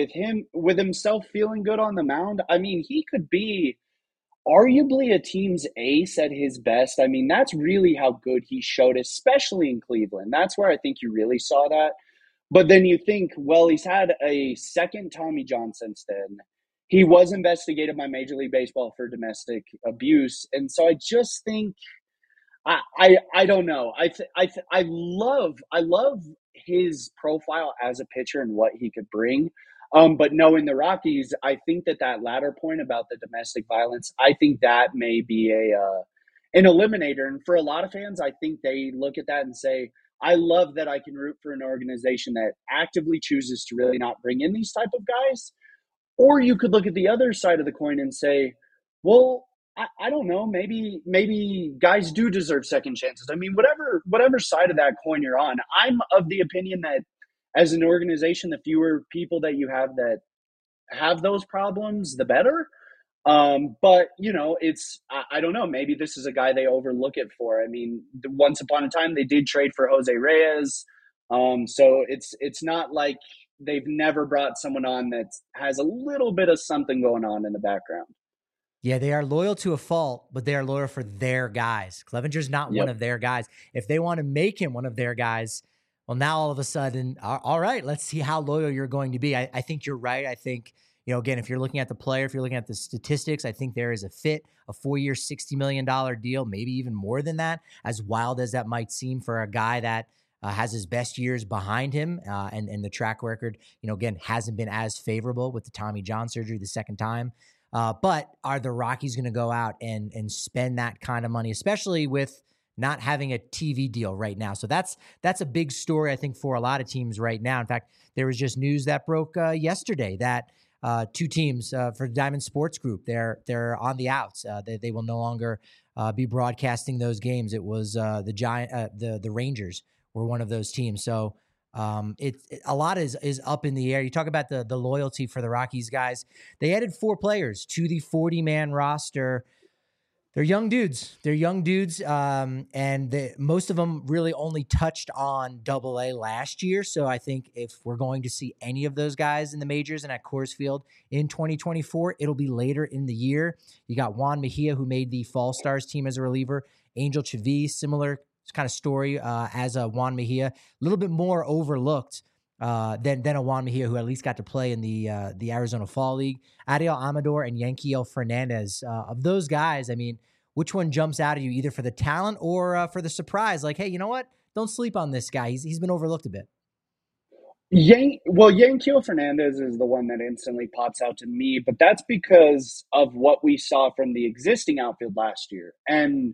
himself feeling good on the mound, I mean, he could be arguably a team's ace at his best. I mean, that's really how good he showed, especially in Cleveland. That's where I think you really saw that. But then you think, well, he's had a second Tommy John since then. He was investigated by Major League Baseball for domestic abuse, and so I just think I don't know. I love his profile as a pitcher and what he could bring. But knowing the Rockies, I think that latter point about the domestic violence, I think that may be an eliminator. And for a lot of fans, I think they look at that and say, I love that I can root for an organization that actively chooses to really not bring in these type of guys. Or you could look at the other side of the coin and say, well, I don't know, maybe guys do deserve second chances. I mean, whatever side of that coin you're on, I'm of the opinion that as an organization, the fewer people that you have that have those problems, the better. But you know, I don't know. Maybe this is a guy they overlook it for. I mean, once upon a time they did trade for Jose Reyes, so it's not like they've never brought someone on that has a little bit of something going on in the background.
Yeah, they are loyal to a fault, but they are loyal for their guys. Clevenger's not one of their guys. If they want to make him one of their guys, well, now all of a sudden, all right, let's see how loyal you're going to be. I think you're right. I think, you know, again, if you're looking at the player, if you're looking at the statistics, I think there is a fit, a 4-year, $60 million deal, maybe even more than that, as wild as that might seem for a guy that has his best years behind him, and the track record, you know, again, hasn't been as favorable with the Tommy John surgery the second time. But are the Rockies going to go out and spend that kind of money, especially with not having a TV deal right now? So that's a big story, I think, for a lot of teams right now. In fact, there was just news that broke yesterday that 2 teams for Diamond Sports Group, they're on the outs. They will no longer be broadcasting those games. It was the Rangers were one of those teams. So a lot is up in the air. You talk about the loyalty for the Rockies guys. They added 4 players to the 40-man roster. They're young dudes. And most of them really only touched on Double-A last year. So I think if we're going to see any of those guys in the majors and at Coors Field in 2024, it'll be later in the year. You got Juan Mejia, who made the Fall Stars team as a reliever. Angel Chavis, similar kind of story as a Juan Mejia, a little bit more overlooked than a Juan Mejia, who at least got to play in the Arizona Fall League. Ariel Amador and Yanquiel Fernandez. Of those guys, I mean, which one jumps out at you, either for the talent or for the surprise? Like, hey, you know what? Don't sleep on this guy. He's been overlooked a bit.
Yanquiel Fernandez is the one that instantly pops out to me, but that's because of what we saw from the existing outfield last year. And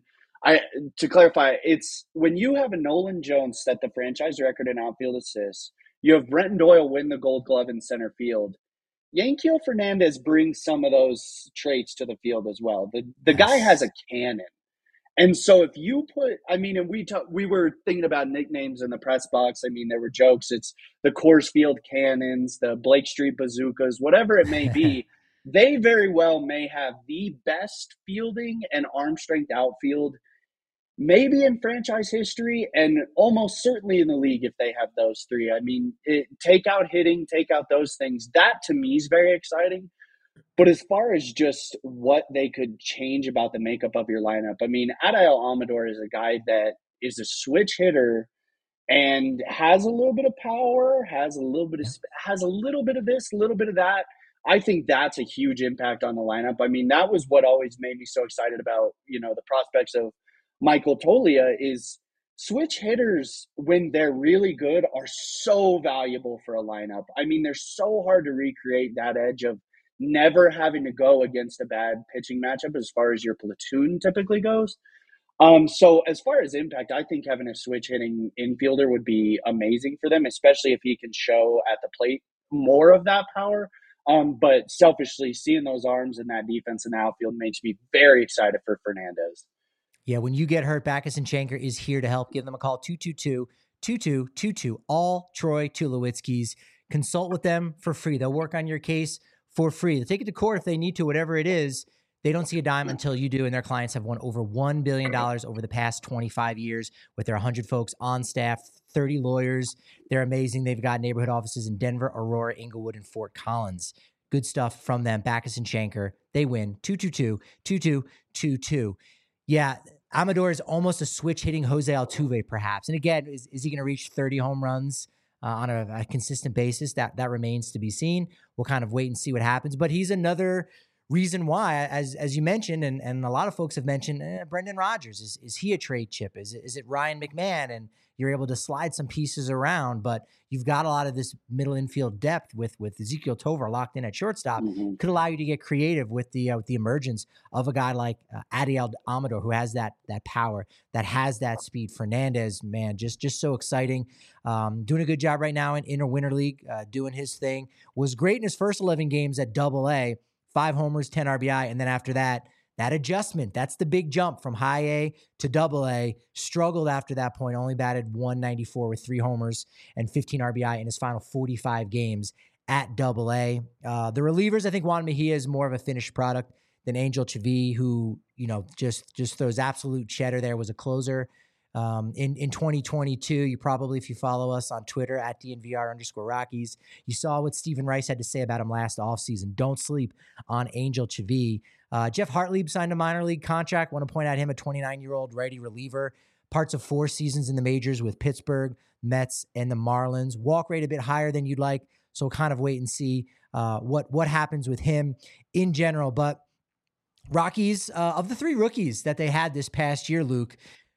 I to clarify, it's when you have a Nolan Jones set the franchise record in outfield assists, you have Brenton Doyle win the Gold Glove in center field. Yankiel Fernandez brings some of those traits to the field as well. The guy has
Yes.
a cannon. And so if you put, I mean, and we were thinking about nicknames in the press box. I mean, there were jokes. It's the Coors Field Cannons, the Blake Street Bazookas, whatever it may be. They very well may have the best fielding and arm strength outfield, maybe in franchise history, and almost certainly in the league if they have those three. I mean, take out hitting, take out those things. That to me is very exciting. But as far as just what they could change about the makeup of your lineup, I mean, Adael Amador is a guy that is a switch hitter and has a little bit of power, has a little bit of this, a little bit of that. I think that's a huge impact on the lineup. I mean, that was what always made me so excited about, the prospects of Michael Tolia is switch hitters when they're really good are so valuable for a lineup. I mean, they're so hard to recreate that edge of never having to go against a bad pitching matchup as far as your platoon typically goes. So as far as impact, I think having a switch hitting infielder would be amazing for them, especially if he can show at the plate more of that power. But selfishly, seeing those arms and that defense in the outfield makes me very excited for Fernandez.
Yeah, when you get hurt, Backus and Shanker is here to help. Give them a call, 222-2222. All Troy Tulowitzki's. Consult with them for free. They'll work on your case for free. They'll take it to court if they need to, whatever it is. They don't see a dime until you do, and their clients have won over $1 billion over the past 25 years with their 100 folks on staff, 30 lawyers. They're amazing. They've got neighborhood offices in Denver, Aurora, Inglewood, and Fort Collins. Good stuff from them. Backus and Shanker. They win, 222-2222. Yeah, Amador is almost a switch hitting Jose Altuve, perhaps. And again, is he going to reach 30 home runs on a consistent basis? That remains to be seen. We'll kind of wait and see what happens. But he's another reason why, as you mentioned, and a lot of folks have mentioned, Brendan Rodgers. Is he a trade chip? Is it Ryan McMahon? And you're able to slide some pieces around, but you've got a lot of this middle infield depth with Ezekiel Tovar locked in at shortstop.
Mm-hmm.
Could allow you to get creative with the emergence of a guy like Adael Amador, who has that power, that has that speed. Fernandez, man, just so exciting. Doing a good job right now in Inter-Winter League, doing his thing. Was great in his first 11 games at Double-A, 5 homers, 10 RBI, and then after that adjustment, that's the big jump from high A to Double-A. Struggled after that point, only batted 194 with 3 homers and 15 RBI in his final 45 games at Double-A. The relievers, I think Juan Mejia is more of a finished product than Angel Chavi, who, just throws absolute cheddar there, was a closer. In 2022, you probably, if you follow us on Twitter at DNVR_Rockies, you saw what Stephen Rice had to say about him last offseason. Don't sleep on Angel Chavi. Jeff Hartlieb signed a minor league contract. Want to point out him, a 29-year-old righty reliever. Parts of 4 seasons in the majors with Pittsburgh, Mets, and the Marlins. Walk rate a bit higher than you'd like, so kind of wait and see what happens with him in general. But Rockies, of the 3 rookies that they had this past year, Luke,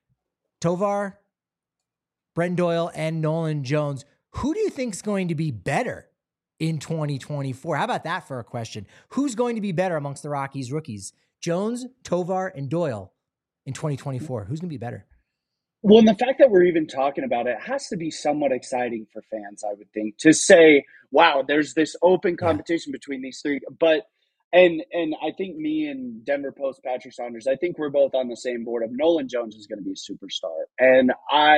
Tovar, Brenton Doyle, and Nolan Jones, who do you think is going to be better in 2024? How about that for a question? Who's going to be better amongst the Rockies rookies? Jones, Tovar, and Doyle in 2024. Who's going to be better?
Well, and the fact that we're even talking about it has to be somewhat exciting for fans, I would think, to say, wow, there's this open competition between these 3. But and I think me and Denver Post Patrick Saunders, I think we're both on the same board of Nolan Jones is going to be a superstar. And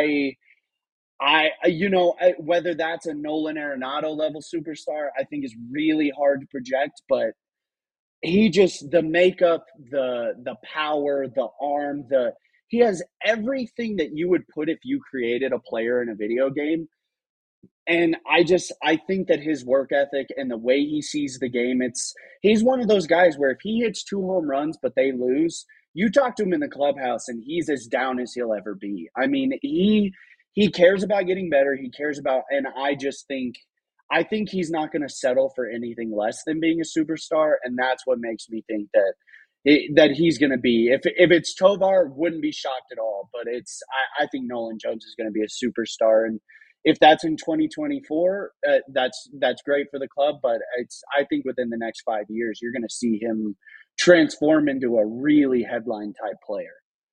whether that's a Nolan Arenado level superstar, I think is really hard to project, but he just, the makeup, the power, the arm, he has everything that you would put if you created a player in a video game. And I think that his work ethic and the way he sees the game, he's one of those guys where if he hits 2 home runs, but they lose, you talk to him in the clubhouse and he's as down as he'll ever be. I mean, he cares about getting better. He cares about, and I think he's not going to settle for anything less than being a superstar. And that's what makes me think that he's going to be, if it's Tovar, wouldn't be shocked at all, but I think Nolan Jones is going to be a superstar. And if that's in 2024, that's great for the club. But I think within the next 5 years, you're going to see him transform into a really headline type player.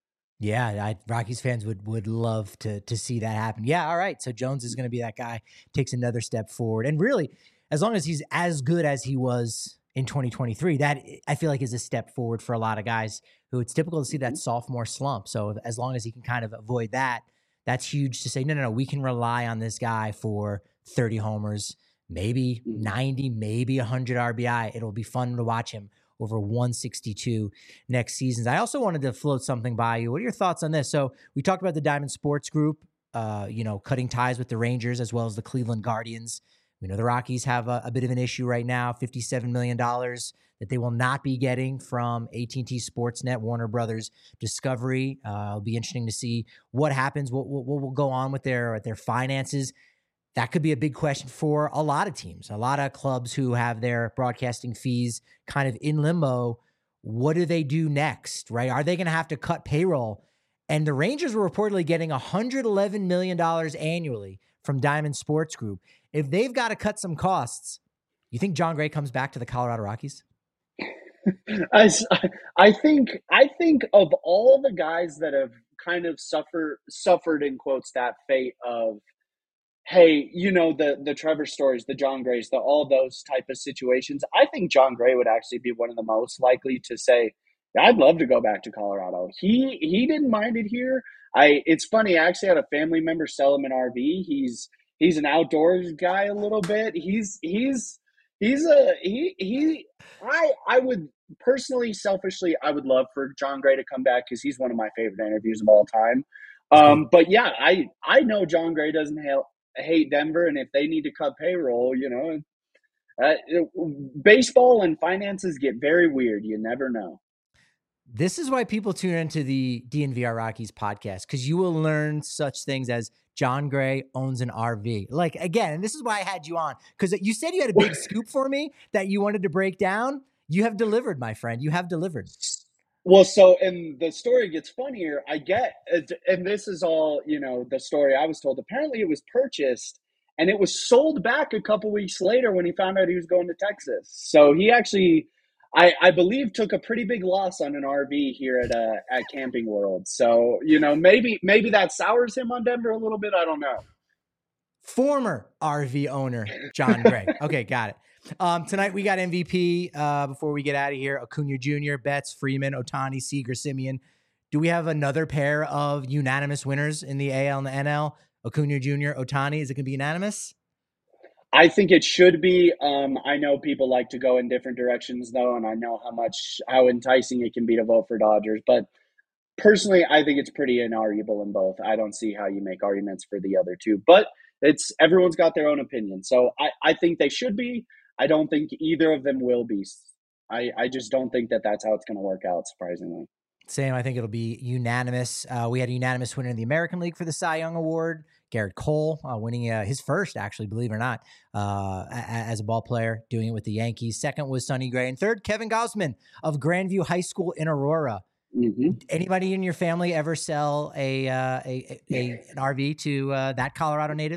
Yeah, Rockies fans would love to see that happen. Yeah, all right. So Jones is going to be that guy, takes another step forward. And really, as long as he's as good as he was in 2023, that I feel like is a step forward for a lot of guys who it's typical to see that sophomore slump. So as long as he can kind of avoid that, that's huge to say, no, we can rely on this guy for 30 homers, maybe 90, maybe 100 RBI. It'll be fun to watch him over 162 next season. I also wanted to float something by you. What are your thoughts on this? So we talked about the Diamond Sports Group, cutting ties with the Rangers as well as the Cleveland Guardians. We know the Rockies have a bit of an issue right now, $57 million that they will not be getting from AT&T Sportsnet, Warner Brothers Discovery. It'll be interesting to see what happens, what will go on with their finances. That could be a big question for a lot of teams, a lot of clubs who have their broadcasting fees kind of in limbo. What do they do next, right? Are they going to have to cut payroll? And the Rangers were reportedly getting $111 million annually from Diamond Sports Group. If they've got to cut some costs, you think Jon Gray comes back to the Colorado Rockies?
I think of all the guys that have kind of suffered in quotes that fate of, hey, the Trevor Stories, the Jon Grays, all those type of situations. I think Jon Gray would actually be one of the most likely to say, I'd love to go back to Colorado. He didn't mind it here. It's funny. I actually had a family member sell him an RV. He's an outdoors guy a little bit. I would personally, selfishly, I would love for Jon Gray to come back because he's one of my favorite interviews of all time. But yeah, I know Jon Gray doesn't hate Denver, and if they need to cut payroll, baseball and finances get very weird. You never know.
This is why people tune into the DNVR Rockies podcast, because you will learn such things as Jon Gray owns an RV. Like, again, and this is why I had you on, because you said you had a big scoop for me that you wanted to break down. You have delivered, my friend. You have delivered.
Well, so, and the story gets funnier. And this is all, the story I was told. Apparently it was purchased and it was sold back a couple weeks later when he found out he was going to Texas. So he actually, I believe, took a pretty big loss on an RV here at Camping World. So, maybe that sours him on Denver a little bit. I don't know.
Former RV owner, Jon Gray. Okay, got it. Tonight we got MVP. Before we get out of here, Acuna Jr., Betts, Freeman, Ohtani, Seager, Simeon. Do we have another pair of unanimous winners in the AL and the NL? Acuna Jr., Ohtani. Is it going to be unanimous?
I think it should be. I know people like to go in different directions, though, and I know how enticing it can be to vote for Dodgers. But personally, I think it's pretty inarguable in both. I don't see how you make arguments for the other two. But everyone's got their own opinion. So I think they should be. I don't think either of them will be. I just don't think that's how it's going to work out, surprisingly.
Same. I think it'll be unanimous. We had a unanimous winner in the American League for the Cy Young Award, Garrett Cole, winning his first, actually, believe it or not, as a ball player, doing it with the Yankees. Second was Sonny Gray. And third, Kevin Gausman of Grandview High School in Aurora. Mm-hmm. Anybody in your family ever sell an RV to that Colorado native?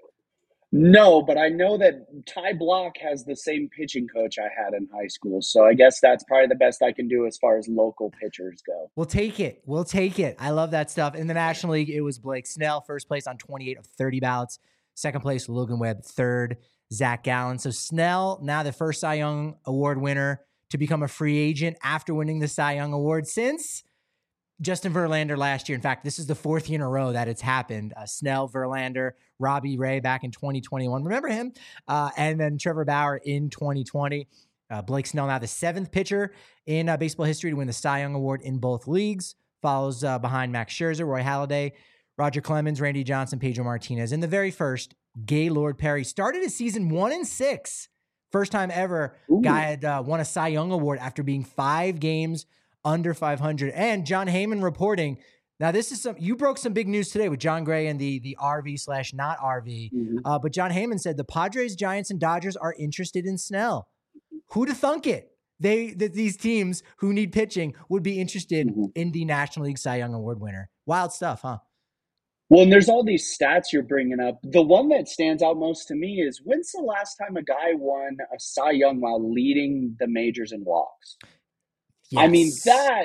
No, but I know that Ty Block has the same pitching coach I had in high school. So I guess that's probably the best I can do as far as local pitchers go.
We'll take it. I love that stuff. In the National League, it was Blake Snell, first place on 28 of 30 ballots. Second place, Logan Webb. Third, Zach Gallen. So Snell, now the first Cy Young Award winner to become a free agent after winning the Cy Young Award since Justin Verlander last year. In fact, this is the fourth year in a row that it's happened. Snell, Verlander, Robbie Ray back in 2021. Remember him? And then Trevor Bauer in 2020. Blake Snell, now the seventh pitcher in baseball history to win the Cy Young Award in both leagues. Follows behind Max Scherzer, Roy Halladay, Roger Clemens, Randy Johnson, Pedro Martinez. In the very first, Gaylord Perry started his season 1-6. First time ever guy had won a Cy Young Award after being 5 games under 500. And Jon Heyman reporting. Now, this is you broke some big news today with Jon Gray and the RV/not RV. Mm-hmm. But Jon Heyman said the Padres, Giants, and Dodgers are interested in Snell. Who'd have thunk it? These teams who need pitching would be interested in the National League Cy Young Award winner. Wild stuff, huh?
Well, and there's all these stats you're bringing up. The one that stands out most to me is, when's the last time a guy won a Cy Young while leading the majors in walks? Yes. I mean,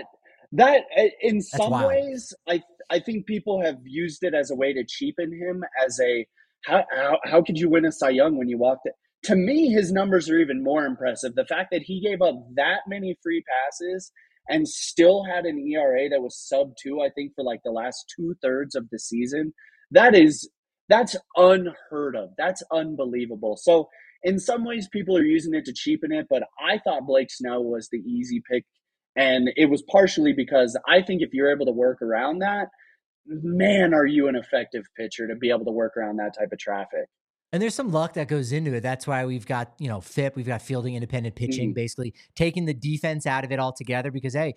That in
That's
some
wild.
ways, I think people have used it as a way to cheapen him as a how could you win a Cy Young when you walked it? To me, his numbers are even more impressive. The fact that he gave up that many free passes and still had an ERA that was sub 2, I think, for like the last 2/3 of the season. That is that's unheard of. That's unbelievable. So in some ways, people are using it to cheapen it, but I thought Blake Snell was the easy pick, and it was partially because I think if you're able to work around that, man, are you an effective pitcher to be able to work around that type of traffic.
And there's some luck that goes into it. That's why we've got, FIP, we've got fielding independent pitching,
Mhm.
basically taking the defense out of it altogether. Because hey,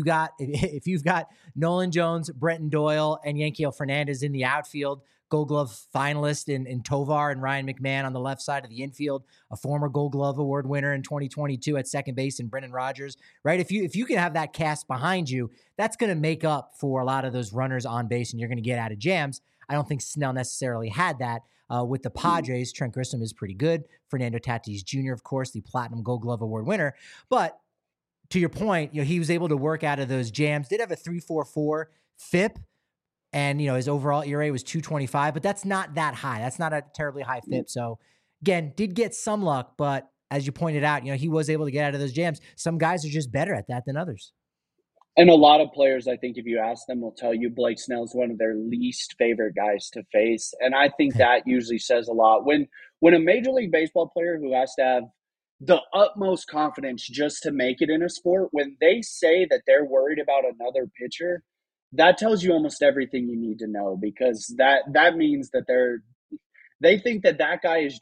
if you've got Nolan Jones, Brenton Doyle, and Yankiel Fernandez in the outfield, Gold Glove finalist in Tovar and Ryan McMahon on the left side of the infield, a former Gold Glove Award winner in 2022 at second base in Brendan Rodgers, right? If you can have that cast behind you, that's going to make up for a lot of those runners on base, and you're going to get out of jams. I don't think Snell necessarily had that. With the Padres, Trent Grissom is pretty good. Fernando Tatis Jr., of course, the Platinum Gold Glove Award winner. But to your point, he was able to work out of those jams. Did have a 3.44 FIP, and his overall ERA was 2.25, but that's not that high. That's not a terribly high FIP. So again, did get some luck, but as you pointed out, he was able to get out of those jams. Some guys are just better at that than others.
And a lot of players, I think, if you ask them, will tell you Blake Snell is one of their least favorite guys to face, and I think that usually says a lot. When a Major League Baseball player who has to have the utmost confidence just to make it in a sport, when they say that they're worried about another pitcher, that tells you almost everything you need to know, because that means that they think that that guy is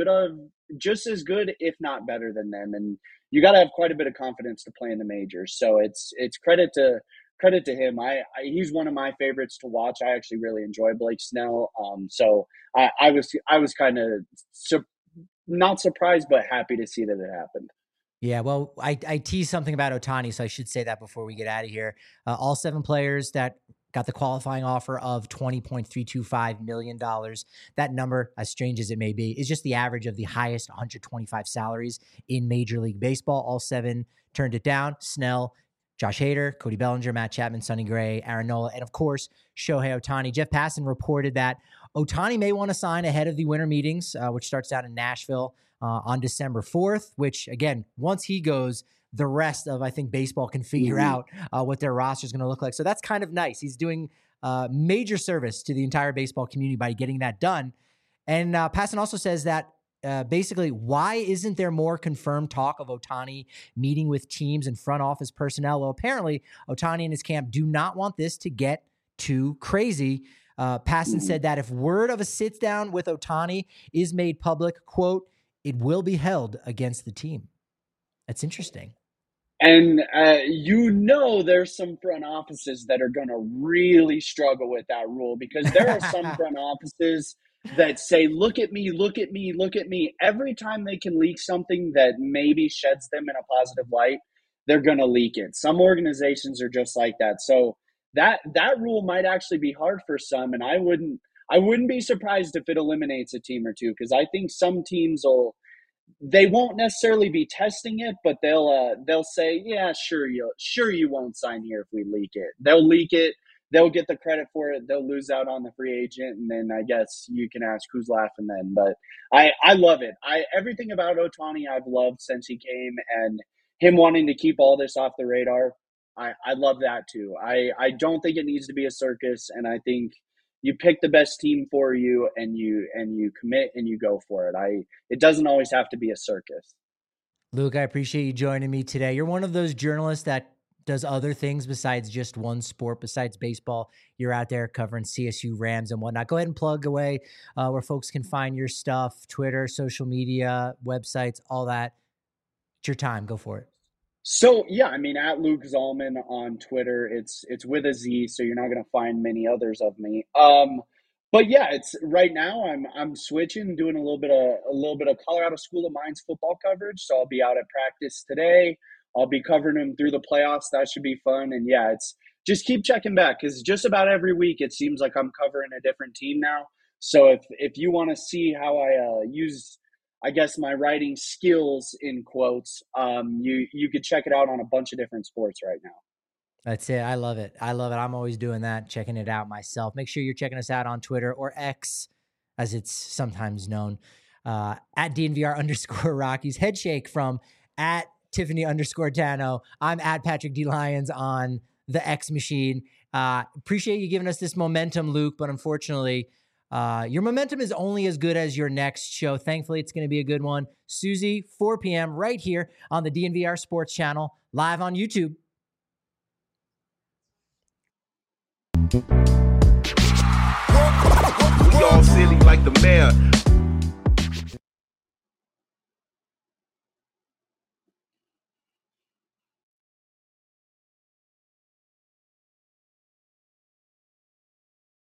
just as good, if not better than them, and you got to have quite a bit of confidence to play in the majors. So it's credit to him. He's one of my favorites to watch. I actually really enjoy Blake Snell. So I was kind of not surprised, but happy to see that it happened.
Yeah, well, I teased something about Ohtani, so I should say that before we get out of here. All 7 players that got the qualifying offer of $20.325 million. That number, as strange as it may be, is just the average of the highest 125 salaries in Major League Baseball. All 7 turned it down. Snell, Josh Hader, Cody Bellinger, Matt Chapman, Sonny Gray, Aaron Nola, and of course, Shohei Ohtani. Jeff Passan reported that Ohtani may want to sign ahead of the winter meetings, which starts out in Nashville on December 4th, which again, once he goes, the rest of, I think, baseball can figure out what their roster is going to look like. So that's kind of nice. He's doing major service to the entire baseball community by getting that done. And Passan also says that basically, why isn't there more confirmed talk of Ohtani meeting with teams and front office personnel? Well, apparently, Ohtani and his camp do not want this to get too crazy. Passan said that if word of a sit down with Ohtani is made public, quote, it will be held against the team. That's interesting.
And there's some front offices that are going to really struggle with that rule, because there are some front offices that say, look at me, look at me, look at me. Every time they can leak something that maybe sheds them in a positive light, they're going to leak it. Some organizations are just like that. So that rule might actually be hard for some, and I wouldn't be surprised if it eliminates a team or two, because I think some teams they won't necessarily be testing it, but they'll say, yeah, sure you won't sign here if we leak it. They'll leak it. They'll get the credit for it. They'll lose out on the free agent, and then I guess you can ask who's laughing then. But I love it. Everything about Ohtani I've loved since he came, and him wanting to keep all this off the radar. I love that too. I don't think it needs to be a circus, and I think you pick the best team for you, and you commit and you go for it. It doesn't always have to be a circus.
Luke, I appreciate you joining me today. You're one of those journalists that does other things besides just one sport, besides baseball. You're out there covering CSU Rams and whatnot. Go ahead and plug away where folks can find your stuff, Twitter, social media, websites, all that. It's your time. Go for it.
So yeah, I mean, at Luke Zalman on Twitter, it's with a Z, so you're not going to find many others of me. But yeah, it's right now I'm switching, doing a little bit of Colorado School of Mines football coverage. So I'll be out at practice today. I'll be covering them through the playoffs. That should be fun. And yeah, it's just keep checking back, because just about every week it seems like I'm covering a different team now. So if you want to see how I use, I guess, my writing skills in quotes, you could check it out on a bunch of different sports right now.
That's it. I love it. I love it. I'm always doing that, checking it out myself. Make sure you're checking us out on Twitter, or X, as it's sometimes known, at DNVR_Rockies. Head shake from at Tiffany_Tano. I'm at Patrick D. Lyons on the X machine. Appreciate you giving us this momentum, Luke, but unfortunately, your momentum is only as good as your next show. Thankfully, it's going to be a good one. Susie, 4 p.m. right here on the DNVR Sports Channel, live on YouTube.
We all silly like the mayor.